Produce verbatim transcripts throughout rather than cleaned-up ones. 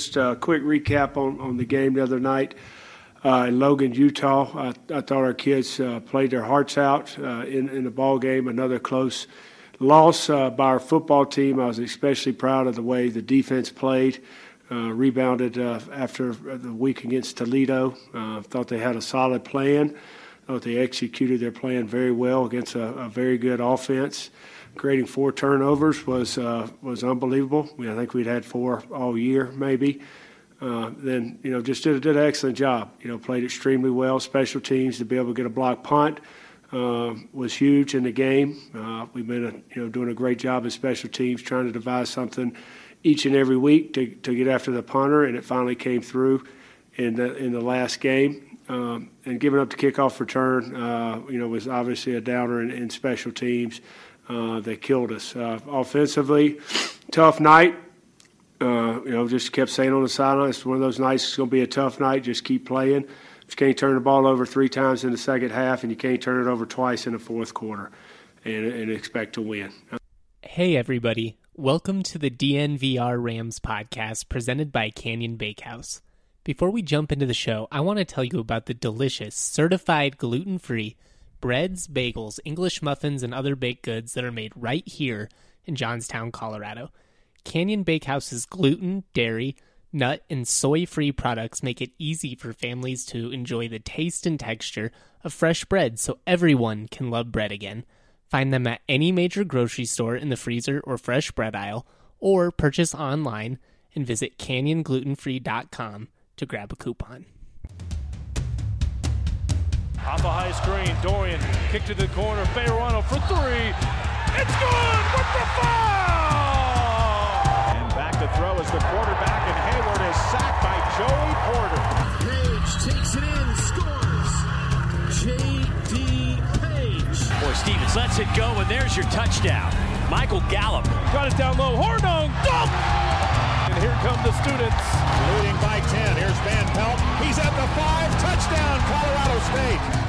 just a quick recap on, on the game the other night uh, in Logan, Utah. I, I thought our kids uh, played their hearts out uh, in, in the ball game. Another close loss uh, by our football team. I was especially proud of the way the defense played. Uh, rebounded uh, after the week against Toledo. Uh, thought they had a solid plan. Thought they executed their plan very well against a, a very good offense. Creating four turnovers was uh, was unbelievable. I think we'd had four all year, maybe. Uh, then you know just did, did an excellent job. You know played extremely well. Special teams to be able to get a block punt uh, was huge in the game. Uh, we've been a, you know doing a great job as special teams, trying to devise something each and every week to, to get after the punter, and it finally came through in the in the last game. Um, and giving up the kickoff return, uh, you know, was obviously a downer in, in special teams. Uh, they killed us uh, offensively. Tough night. Uh, you know, just kept saying on the sideline, it's one of those nights. It's going to be a tough night. Just keep playing. You can't turn the ball over three times in the second half, and you can't turn it over twice in the fourth quarter, and, and expect to win. Hey, everybody. Welcome to the D N V R Rams podcast presented by Canyon Bakehouse. Before we jump into the show, I want to tell you about the delicious, certified gluten-free breads, bagels, English muffins, and other baked goods that are made right here in Johnstown, Colorado. Canyon Bakehouse's gluten, dairy, nut, and soy-free products make it easy for families to enjoy the taste and texture of fresh bread so everyone can love bread again. Find them at any major grocery store in the freezer or fresh bread aisle, or purchase online and visit canyon gluten free dot com to grab a coupon. Off a high screen, Dorian, kick to the corner, Fayerano for three. It's good with the foul! And back to throw is the quarterback, and Hayward is sacked by Joey Porter. Page takes it in, scores. J D Boy, Stevens lets it go, and there's your touchdown. Michael Gallup. Got it down low. Hornung. Dunk! And here come the students. Leading by ten. Here's Van Pelt. He's at the five. Touchdown, Colorado State.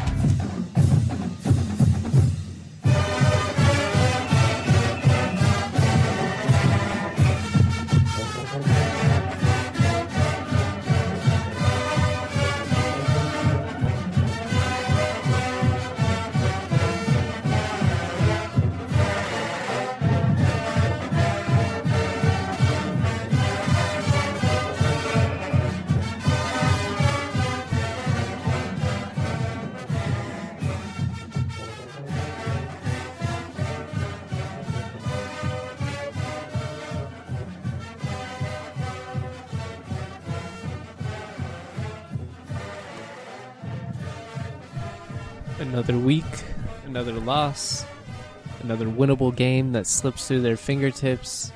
Another week, another loss, another winnable game that slips through their fingertips.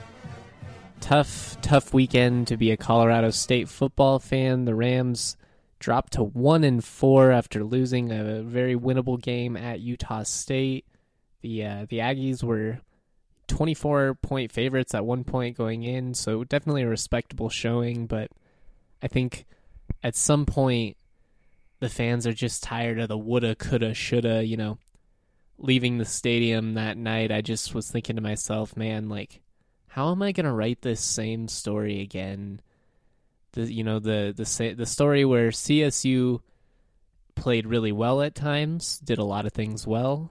Tough, tough weekend to be a Colorado State football fan. The Rams dropped to one and four after losing a very winnable game at Utah State. The uh, the Aggies were twenty-four point favorites at one point going in, so definitely a respectable showing. But I think at some point, the fans are just tired of the woulda, coulda, shoulda, you know, leaving the stadium that night. I just was thinking to myself, man, like, how am I going to write this same story again? The, you know, the, the, the story where C S U played really well at times, did a lot of things well,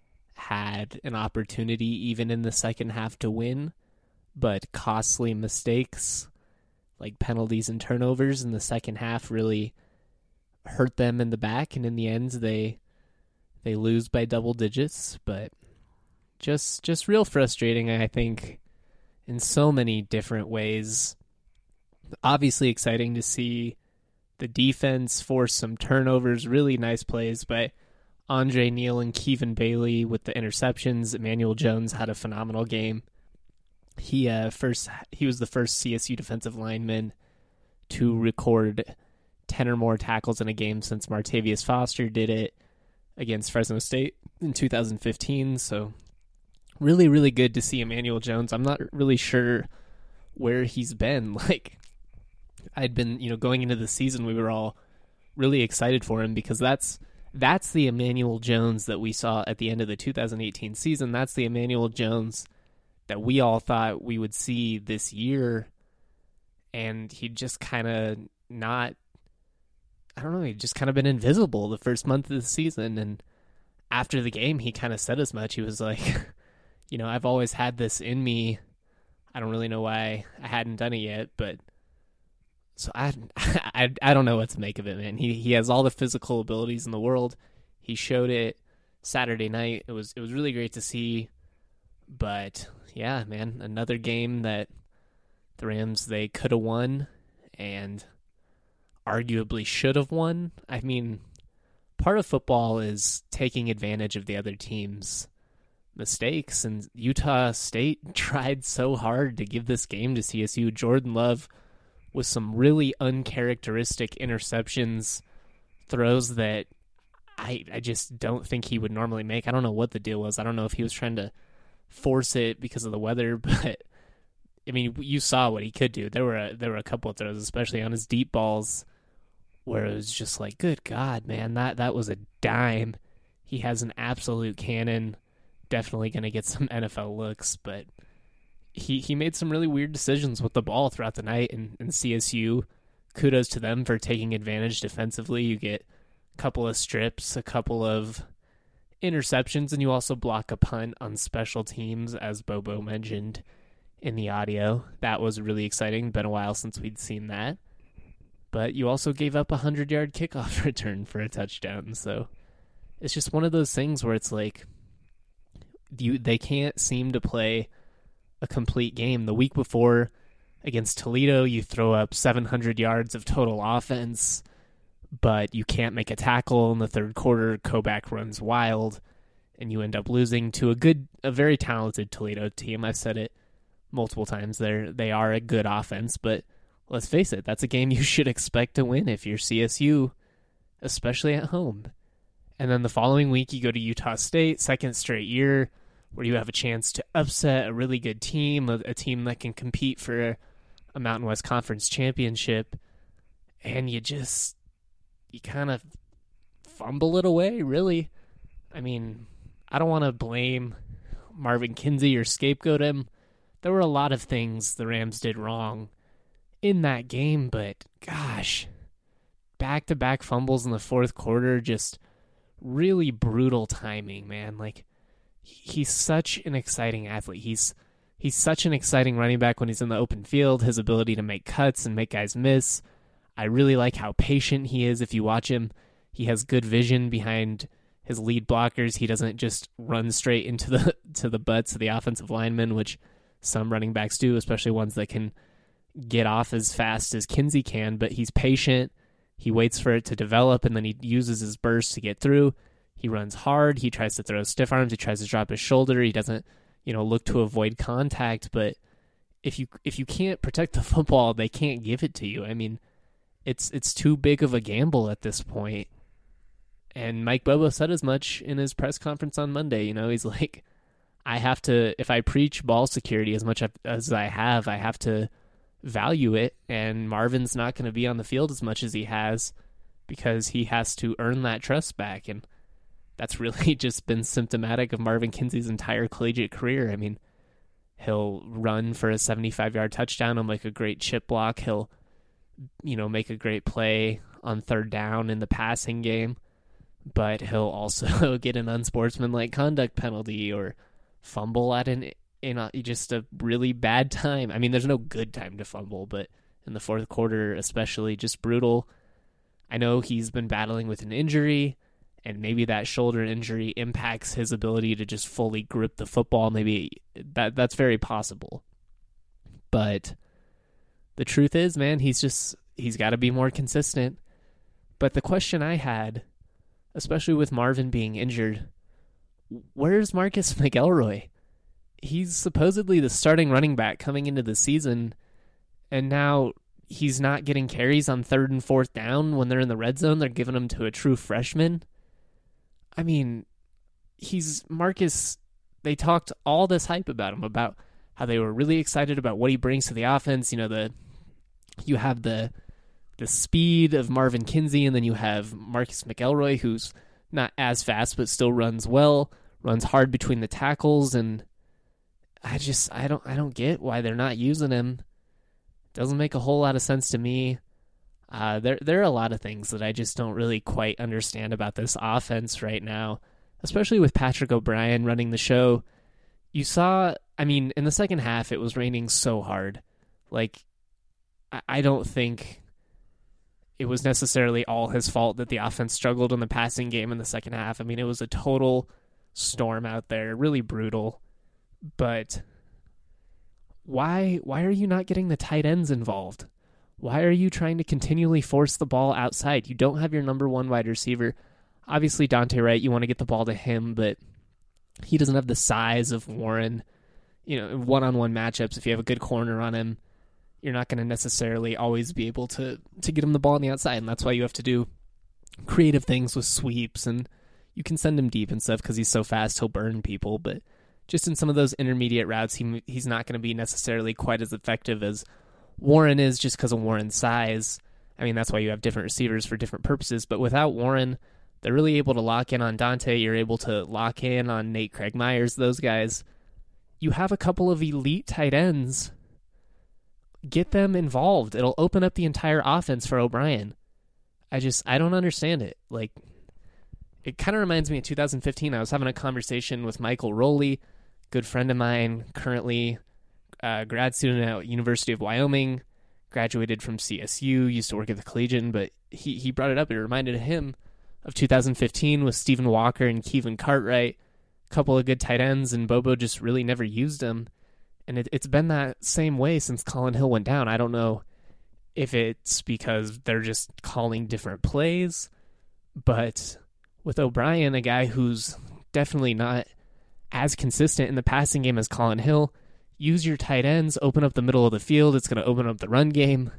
had an opportunity even in the second half to win, but costly mistakes like penalties and turnovers in the second half really hurt them in the back, and in the end they they lose by double digits. But just just real frustrating, I think, in so many different ways. Obviously exciting to see the defense force some turnovers, really nice plays by Andre Neal and Kevin Bailey with the interceptions. Emmanuel Jones had a phenomenal game. He uh first he was the first C S U defensive lineman to record ten or more tackles in a game since Martavius Foster did it against Fresno State in two thousand fifteen. So really, really good to see Emmanuel Jones. I'm not really sure where he's been. Like, I'd been, you know, going into the season, we were all really excited for him because that's that's the Emmanuel Jones that we saw at the end of the two thousand eighteen season. That's the Emmanuel Jones that we all thought we would see this year. and he just kind of not, I don't know, he just kind of been invisible the first month of the season. And after the game, he kind of said as much. He was like, you know, I've always had this in me. I don't really know why I hadn't done it yet, but so I, I, I don't know what to make of it, man. He he has all the physical abilities in the world. He showed it Saturday night. It was it was really great to see. But yeah, man, another game that the Rams, they could have won and arguably should have won. I mean, part of football is taking advantage of the other team's mistakes, and Utah State tried so hard to give this game to C S U. Jordan Love with some really uncharacteristic interceptions, throws that I I just don't think he would normally make. I don't know what the deal was. I don't know if he was trying to force it because of the weather, but I mean, you saw what he could do. There were a, there were a couple of throws, especially on his deep balls, where it was just like, good God, man, that that was a dime. He has an absolute cannon. Definitely going to get some N F L looks, but he he made some really weird decisions with the ball throughout the night, and, and C S U, kudos to them for taking advantage defensively. You get a couple of strips, a couple of interceptions, and you also block a punt on special teams, as Bobo mentioned in the audio. That was really exciting. Been a while since we'd seen that. But you also gave up a hundred-yard kickoff return for a touchdown, so it's just one of those things where it's like you they can't seem to play a complete game. The week before against Toledo, you throw up seven hundred yards of total offense, but you can't make a tackle in the third quarter. Koback runs wild, and you end up losing to a good, a very talented Toledo team. I've said it multiple times. They're, they are a good offense, but let's face it, that's a game you should expect to win if you're C S U, especially at home. And then the following week, you go to Utah State, second straight year, where you have a chance to upset a really good team, a, a team that can compete for a, a Mountain West Conference championship, and you just, you kind of fumble it away, really. I mean, I don't want to blame Marvin Kinsey or scapegoat him. There were a lot of things the Rams did wrong in that game, but gosh, back-to-back fumbles in the fourth quarter, just really brutal timing, man. Like, he's such an exciting athlete. He's he's such an exciting running back when he's in the open field. His ability to make cuts and make guys miss. I really like how patient he is. If you watch him, he has good vision behind his lead blockers. He doesn't just run straight into the to the butts of the offensive linemen, which some running backs do, especially ones that can get off as fast as Kinsey can. But he's patient. He waits for it to develop, and then he uses his burst to get through. He runs hard. He tries to throw stiff arms. He tries to drop his shoulder. He doesn't, you know, look to avoid contact. But if you if you can't protect the football, they can't give it to you. I mean, it's it's too big of a gamble at this point. And Mike Bobo said as much in his press conference on Monday. You know, he's like, I have to, if I preach ball security as much as I have, I have to value it. And Marvin's not going to be on the field as much as he has because he has to earn that trust back. And that's really just been symptomatic of Marvin Kinsey's entire collegiate career. I mean, he'll run for a seventy-five-yard touchdown. He'll make a great chip block. He'll, you know, make a great play on third down in the passing game. But he'll also get an unsportsmanlike conduct penalty or fumble at an in a, just a really bad time. I mean, there's no good time to fumble, but in the fourth quarter, especially, just brutal. I know he's been battling with an injury, and maybe that shoulder injury impacts his ability to just fully grip the football. Maybe that that's very possible. But the truth is, man, he's just he's got to be more consistent. But the question I had, especially with Marvin being injured, where's Marcus McElroy? He's supposedly the starting running back coming into the season, and now he's not getting carries on third and fourth down when they're in the red zone. They're giving them to a true freshman. I mean, he's Marcus. They talked all this hype about him, about how they were really excited about what he brings to the offense. You know, the you have the the speed of Marvin Kinsey, and then you have Marcus McElroy, who's not as fast but still runs well, runs hard between the tackles, and I just I don't I don't get why they're not using him. Doesn't make a whole lot of sense to me. Uh, there, there are a lot of things that I just don't really quite understand about this offense right now, especially with Patrick O'Brien running the show. You saw, I mean, in the second half, it was raining so hard. Like, I, I don't think it was necessarily all his fault that the offense struggled in the passing game in the second half. I mean, it was a total storm out there, really brutal. But why, why are you not getting the tight ends involved? Why are you trying to continually force the ball outside? You don't have your number one wide receiver. Obviously, Dante Wright, you want to get the ball to him, but he doesn't have the size of Warren. You know, one-on-one matchups, if you have a good corner on him, you're not going to necessarily always be able to, to get him the ball on the outside, and that's why you have to do creative things with sweeps, and you can send him deep and stuff because he's so fast, he'll burn people, but just in some of those intermediate routes, he he's not going to be necessarily quite as effective as Warren is just because of Warren's size. I mean, that's why you have different receivers for different purposes, but without Warren, they're really able to lock in on Dante. You're able to lock in on Nate Craig Myers, those guys. You have a couple of elite tight ends. Get them involved. It'll open up the entire offense for O'Brien. I just, I don't understand it. Like, it kind of reminds me of two thousand fifteen. I was having a conversation with Michael Rowley, good friend of mine, currently a grad student at University of Wyoming, graduated from C S U, used to work at the Collegian, but he, he brought it up. It reminded him of two thousand fifteen with Stephen Walker and Kevin Cartwright, a couple of good tight ends, and Bobo just really never used them. And it, it's been that same way since Colin Hill went down. I don't know if it's because they're just calling different plays, but with O'Brien, a guy who's definitely not as consistent in the passing game as Colin Hill, use your tight ends, open up the middle of the field. It's going to open up the run game.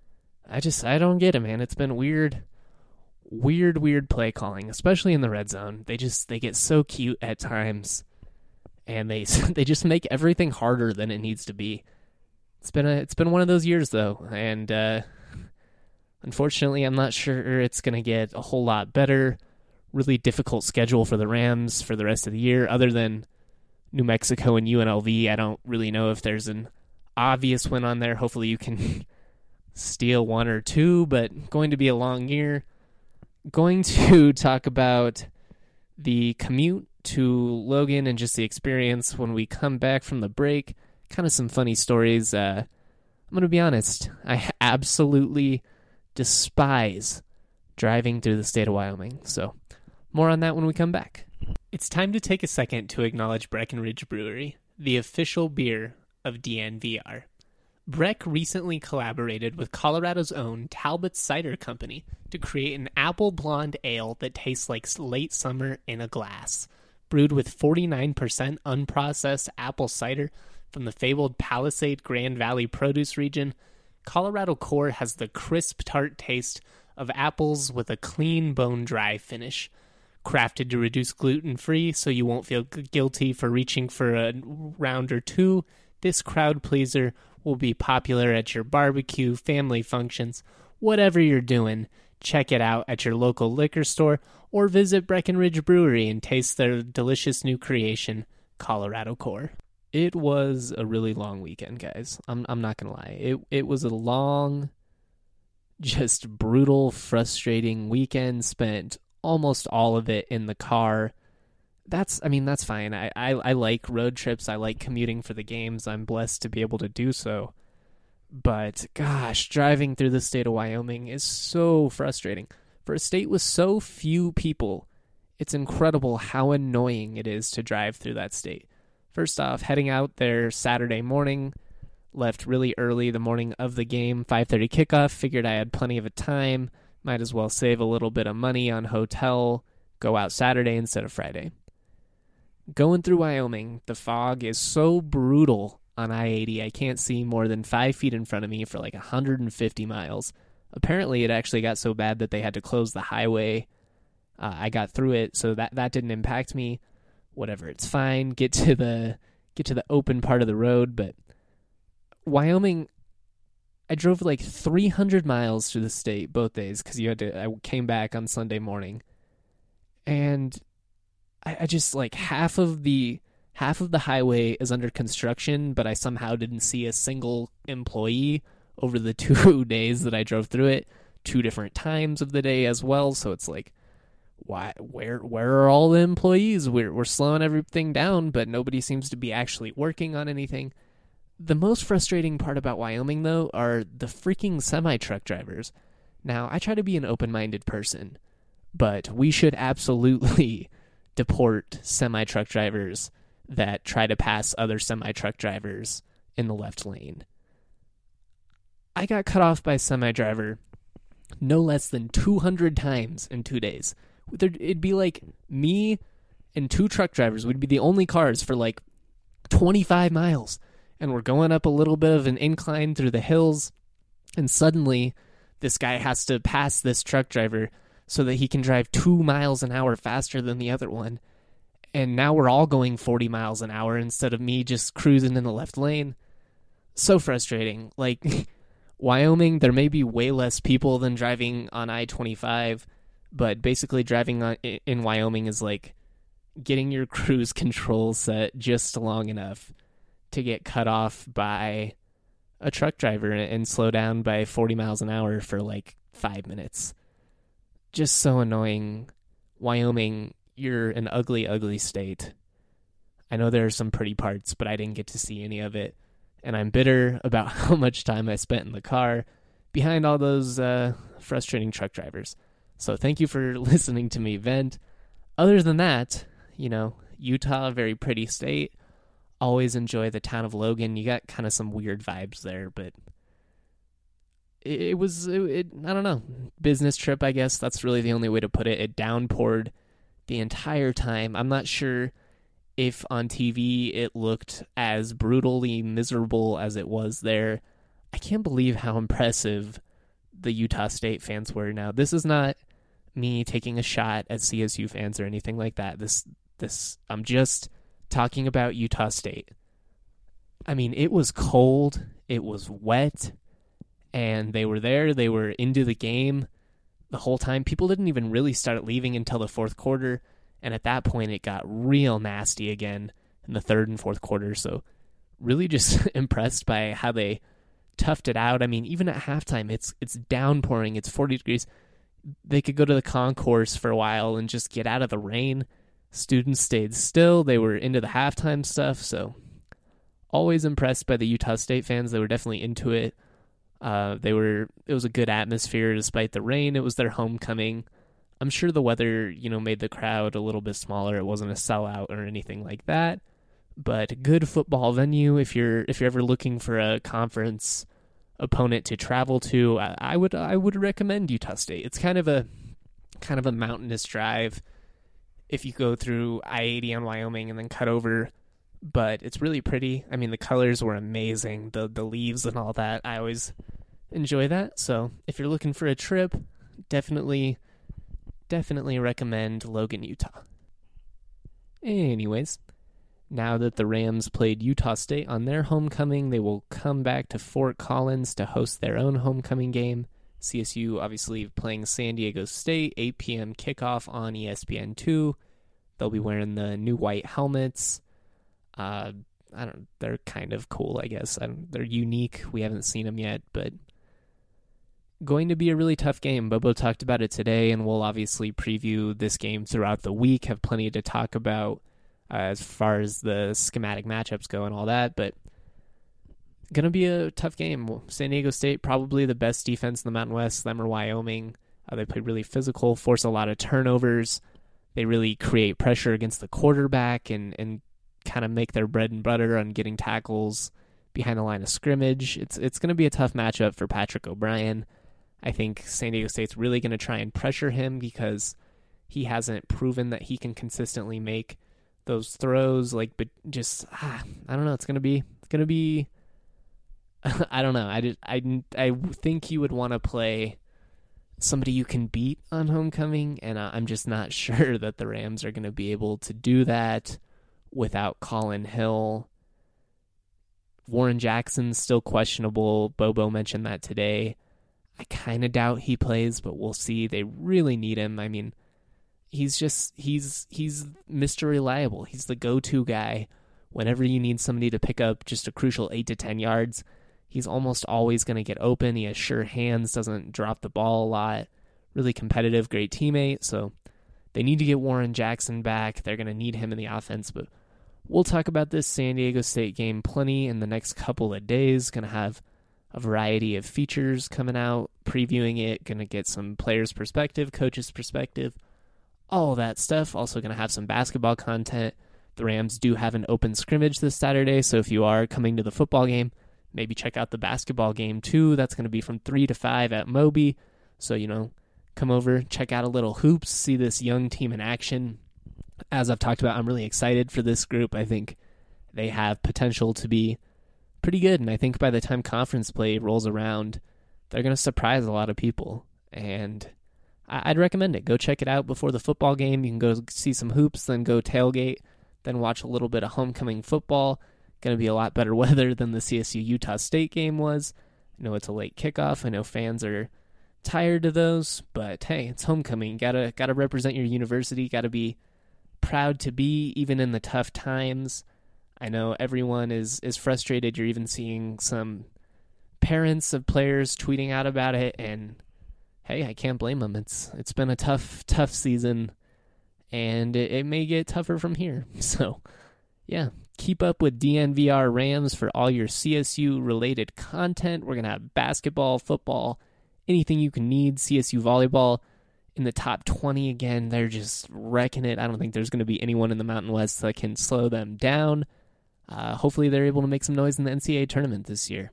I just, I don't get it, man. It's been weird, weird, weird play calling, especially in the red zone. They just, they get so cute at times, and they, they just make everything harder than it needs to be. It's been a, it's been one of those years though, and uh, unfortunately, I'm not sure it's going to get a whole lot better. Really difficult schedule for the Rams for the rest of the year, other than New Mexico and U N L V. I don't really know if there's an obvious win on there. Hopefully you can steal one or two, but going to be a long year. Going to talk about the commute to Logan and just the experience when we come back from the break. Kind of some funny stories. Uh, I'm going to be honest. I absolutely despise driving through the state of Wyoming. So more on that when we come back. It's time to take a second to acknowledge Breckenridge Brewery, the official beer of D N V R. Breck recently collaborated with Colorado's own Talbot Cider Company to create an apple blonde ale that tastes like late summer in a glass. Brewed with forty-nine percent unprocessed apple cider from the fabled Palisade Grand Valley produce region, Colorado Core has the crisp, tart taste of apples with a clean, bone-dry finish. Crafted to reduce gluten-free so you won't feel guilty for reaching for a round or two, this crowd pleaser will be popular at your barbecue, family functions, whatever you're doing. Check it out at your local liquor store or visit Breckenridge Brewery and taste their delicious new creation, Colorado Core. It was a really long weekend, guys. I'm I'm not going to lie. It it was a long, just brutal, frustrating weekend, spent almost all of it in the car. That's, I mean, that's fine. I, I, I like road trips. I like commuting for the games. I'm blessed to be able to do so. But gosh, driving through the state of Wyoming is so frustrating. For a state with so few people, it's incredible how annoying it is to drive through that state. First off, heading out there Saturday morning, left really early the morning of the game, five thirty kickoff, figured I had plenty of a time. Might as well save a little bit of money on hotel, go out Saturday instead of Friday. Going through Wyoming, the fog is so brutal on I eighty, I can't see more than five feet in front of me for like one hundred fifty miles. Apparently, it actually got so bad that they had to close the highway. Uh, I got through it, so that, that didn't impact me. Whatever, it's fine. Get to the get to the open part of the road, but Wyoming, I drove like three hundred miles through the state both days because you had to. I came back on Sunday morning, and I, I just like half of the half of the highway is under construction, but I somehow didn't see a single employee over the two days that I drove through it, two different times of the day as well. So it's like, why, where, where are all the employees? We're, we're slowing everything down, but nobody seems to be actually working on anything. The most frustrating part about Wyoming, though, are the freaking semi-truck drivers. Now, I try to be an open-minded person, but we should absolutely deport semi-truck drivers that try to pass other semi-truck drivers in the left lane. I got cut off by a semi-driver no less than two hundred times in two days. It'd be like me and two truck drivers would be the only cars for like twenty-five miles. And we're going up a little bit of an incline through the hills. And suddenly this guy has to pass this truck driver so that he can drive two miles an hour faster than the other one. And now we're all going forty miles an hour instead of me just cruising in the left lane. So frustrating. Like, Wyoming, there may be way less people than driving on I twenty-five, but basically driving on, in Wyoming is like getting your cruise control set just long enough to get cut off by a truck driver and slow down by forty miles an hour for like five minutes. Just so annoying. Wyoming, you're an ugly, ugly state. I know there are some pretty parts, but I didn't get to see any of it. And I'm bitter about how much time I spent in the car behind all those uh, frustrating truck drivers. So thank you for listening to me vent. Other than that, you know, Utah, a very pretty state. Always enjoy the town of Logan. You got kind of some weird vibes there, but it, it was, it, it, I don't know, business trip, I guess. That's really the only way to put it. It downpoured the entire time. I'm not sure if on T V it looked as brutally miserable as it was there. I can't believe how impressive the Utah State fans were. Now, this is not me taking a shot at C S U fans or anything like that. This, this, I'm just talking about Utah State. I mean, it was cold, it was wet, and they were there, they were into the game the whole time. People didn't even really start leaving until the fourth quarter, and at that point it got real nasty again in the third and fourth quarter. So really just impressed by how they toughed it out. I mean, even at halftime, it's it's downpouring, it's forty degrees. They could go to the concourse for a while and just get out of the rain. Students stayed still. They were into the halftime stuff. So always impressed by the Utah State fans. They were definitely into it. Uh, they were. It was a good atmosphere despite the rain. It was their homecoming. I'm sure the weather, you know, made the crowd a little bit smaller. It wasn't a sellout or anything like that. But a good football venue. If you're if you're ever looking for a conference opponent to travel to, I, I would I would recommend Utah State. It's kind of a kind of a mountainous drive if you go through I eighty on Wyoming and then cut over, but it's really pretty. I mean, the colors were amazing, the the leaves and all that. I always enjoy that. So if you're looking for a trip, definitely, definitely recommend Logan, Utah. Anyways, now that the Rams played Utah State on their homecoming, they will come back to Fort Collins to host their own homecoming game. C S U obviously playing San Diego State, eight p.m. kickoff on E S P N two. They'll be wearing the new white helmets. Uh, I don't. They're kind of cool, I guess. I don't, they're unique. We haven't seen them yet, but going to be a really tough game. Bobo talked about it today, and we'll obviously preview this game throughout the week. Have plenty to talk about uh, as far as the schematic matchups go and all that, but going to be a tough game. San Diego State, probably the best defense in the Mountain West. Them or Wyoming. Uh, they play really physical, force a lot of turnovers. They really create pressure against the quarterback and, and kind of make their bread and butter on getting tackles behind the line of scrimmage. It's it's going to be a tough matchup for Patrick O'Brien. I think San Diego State's really going to try and pressure him because he hasn't proven that he can consistently make those throws. Like, but just ah, I don't know. It's going to be it's going to be. I don't know. I, did, I, I think you would want to play somebody you can beat on homecoming, and I'm just not sure that the Rams are going to be able to do that without Colin Hill. Warren Jackson's still questionable. Bobo mentioned that today. I kind of doubt he plays, but we'll see. They really need him. I mean, he's just, he's, he's Mister Reliable. He's the go-to guy whenever you need somebody to pick up just a crucial eight to ten yards. he's almost always going to get open. He has sure hands, doesn't drop the ball a lot. Really competitive, great teammate. So they need to get Warren Jackson back. They're going to need him in the offense. But we'll talk about this San Diego State game plenty in the next couple of days. Going to have a variety of features coming out, previewing it. Going to get some players' perspective, coaches' perspective, all that stuff. Also going to have some basketball content. The Rams do have an open scrimmage this Saturday, so if you are coming to the football game, maybe check out the basketball game too. That's going to be from three to five at Moby. So, you know, come over, check out a little hoops, see this young team in action. As I've talked about, I'm really excited for this group. I think they have potential to be pretty good, and I think by the time conference play rolls around, they're going to surprise a lot of people. And I'd recommend it. Go check it out before the football game. You can go see some hoops, then go tailgate, then watch a little bit of homecoming football. Going to be a lot better weather than the C S U-Utah State game was. I know it's a late kickoff. I know fans are tired of those, but hey, it's homecoming. Gotta gotta represent your university. Gotta be proud to be, even in the tough times. I know everyone is is frustrated. You're even seeing some parents of players tweeting out about it, and hey, I can't blame them. It's it's been a tough tough season, and it, it may get tougher from here. So, yeah, keep up with D N V R Rams for all your C S U related content. We're gonna have basketball, football, anything you can need. C S U volleyball in the top twenty again. They're just wrecking it. I don't think there's going to be anyone in the Mountain West that can slow them down. Uh, hopefully they're able to make some noise in the N C double A tournament this year.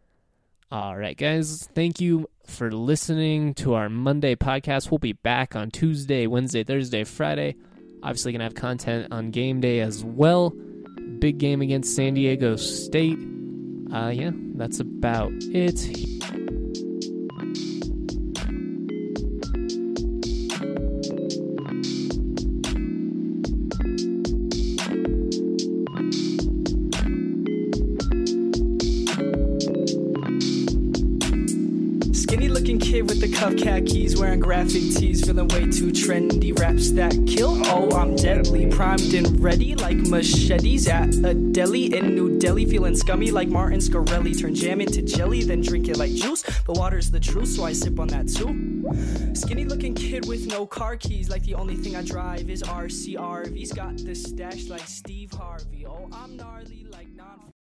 All right, guys. Thank you for listening to our Monday podcast. We'll be back on Tuesday, Wednesday, Thursday, Friday. Obviously going to have content on game day as well. Big game against San Diego State. Uh, yeah, that's about it. With the cuff khakis, wearing graphic tees, feeling way too trendy. Raps that kill, oh, I'm deadly. Primed and ready like machetes at a deli in New Delhi. Feeling scummy like Martin Scarelli. Turn jam into jelly, then drink it like juice. But water's the truth, so I sip on that too. Skinny looking kid with no car keys, like the only thing I drive is R C R V's. Got the stash like Steve Harvey. Oh, I'm gnarly like non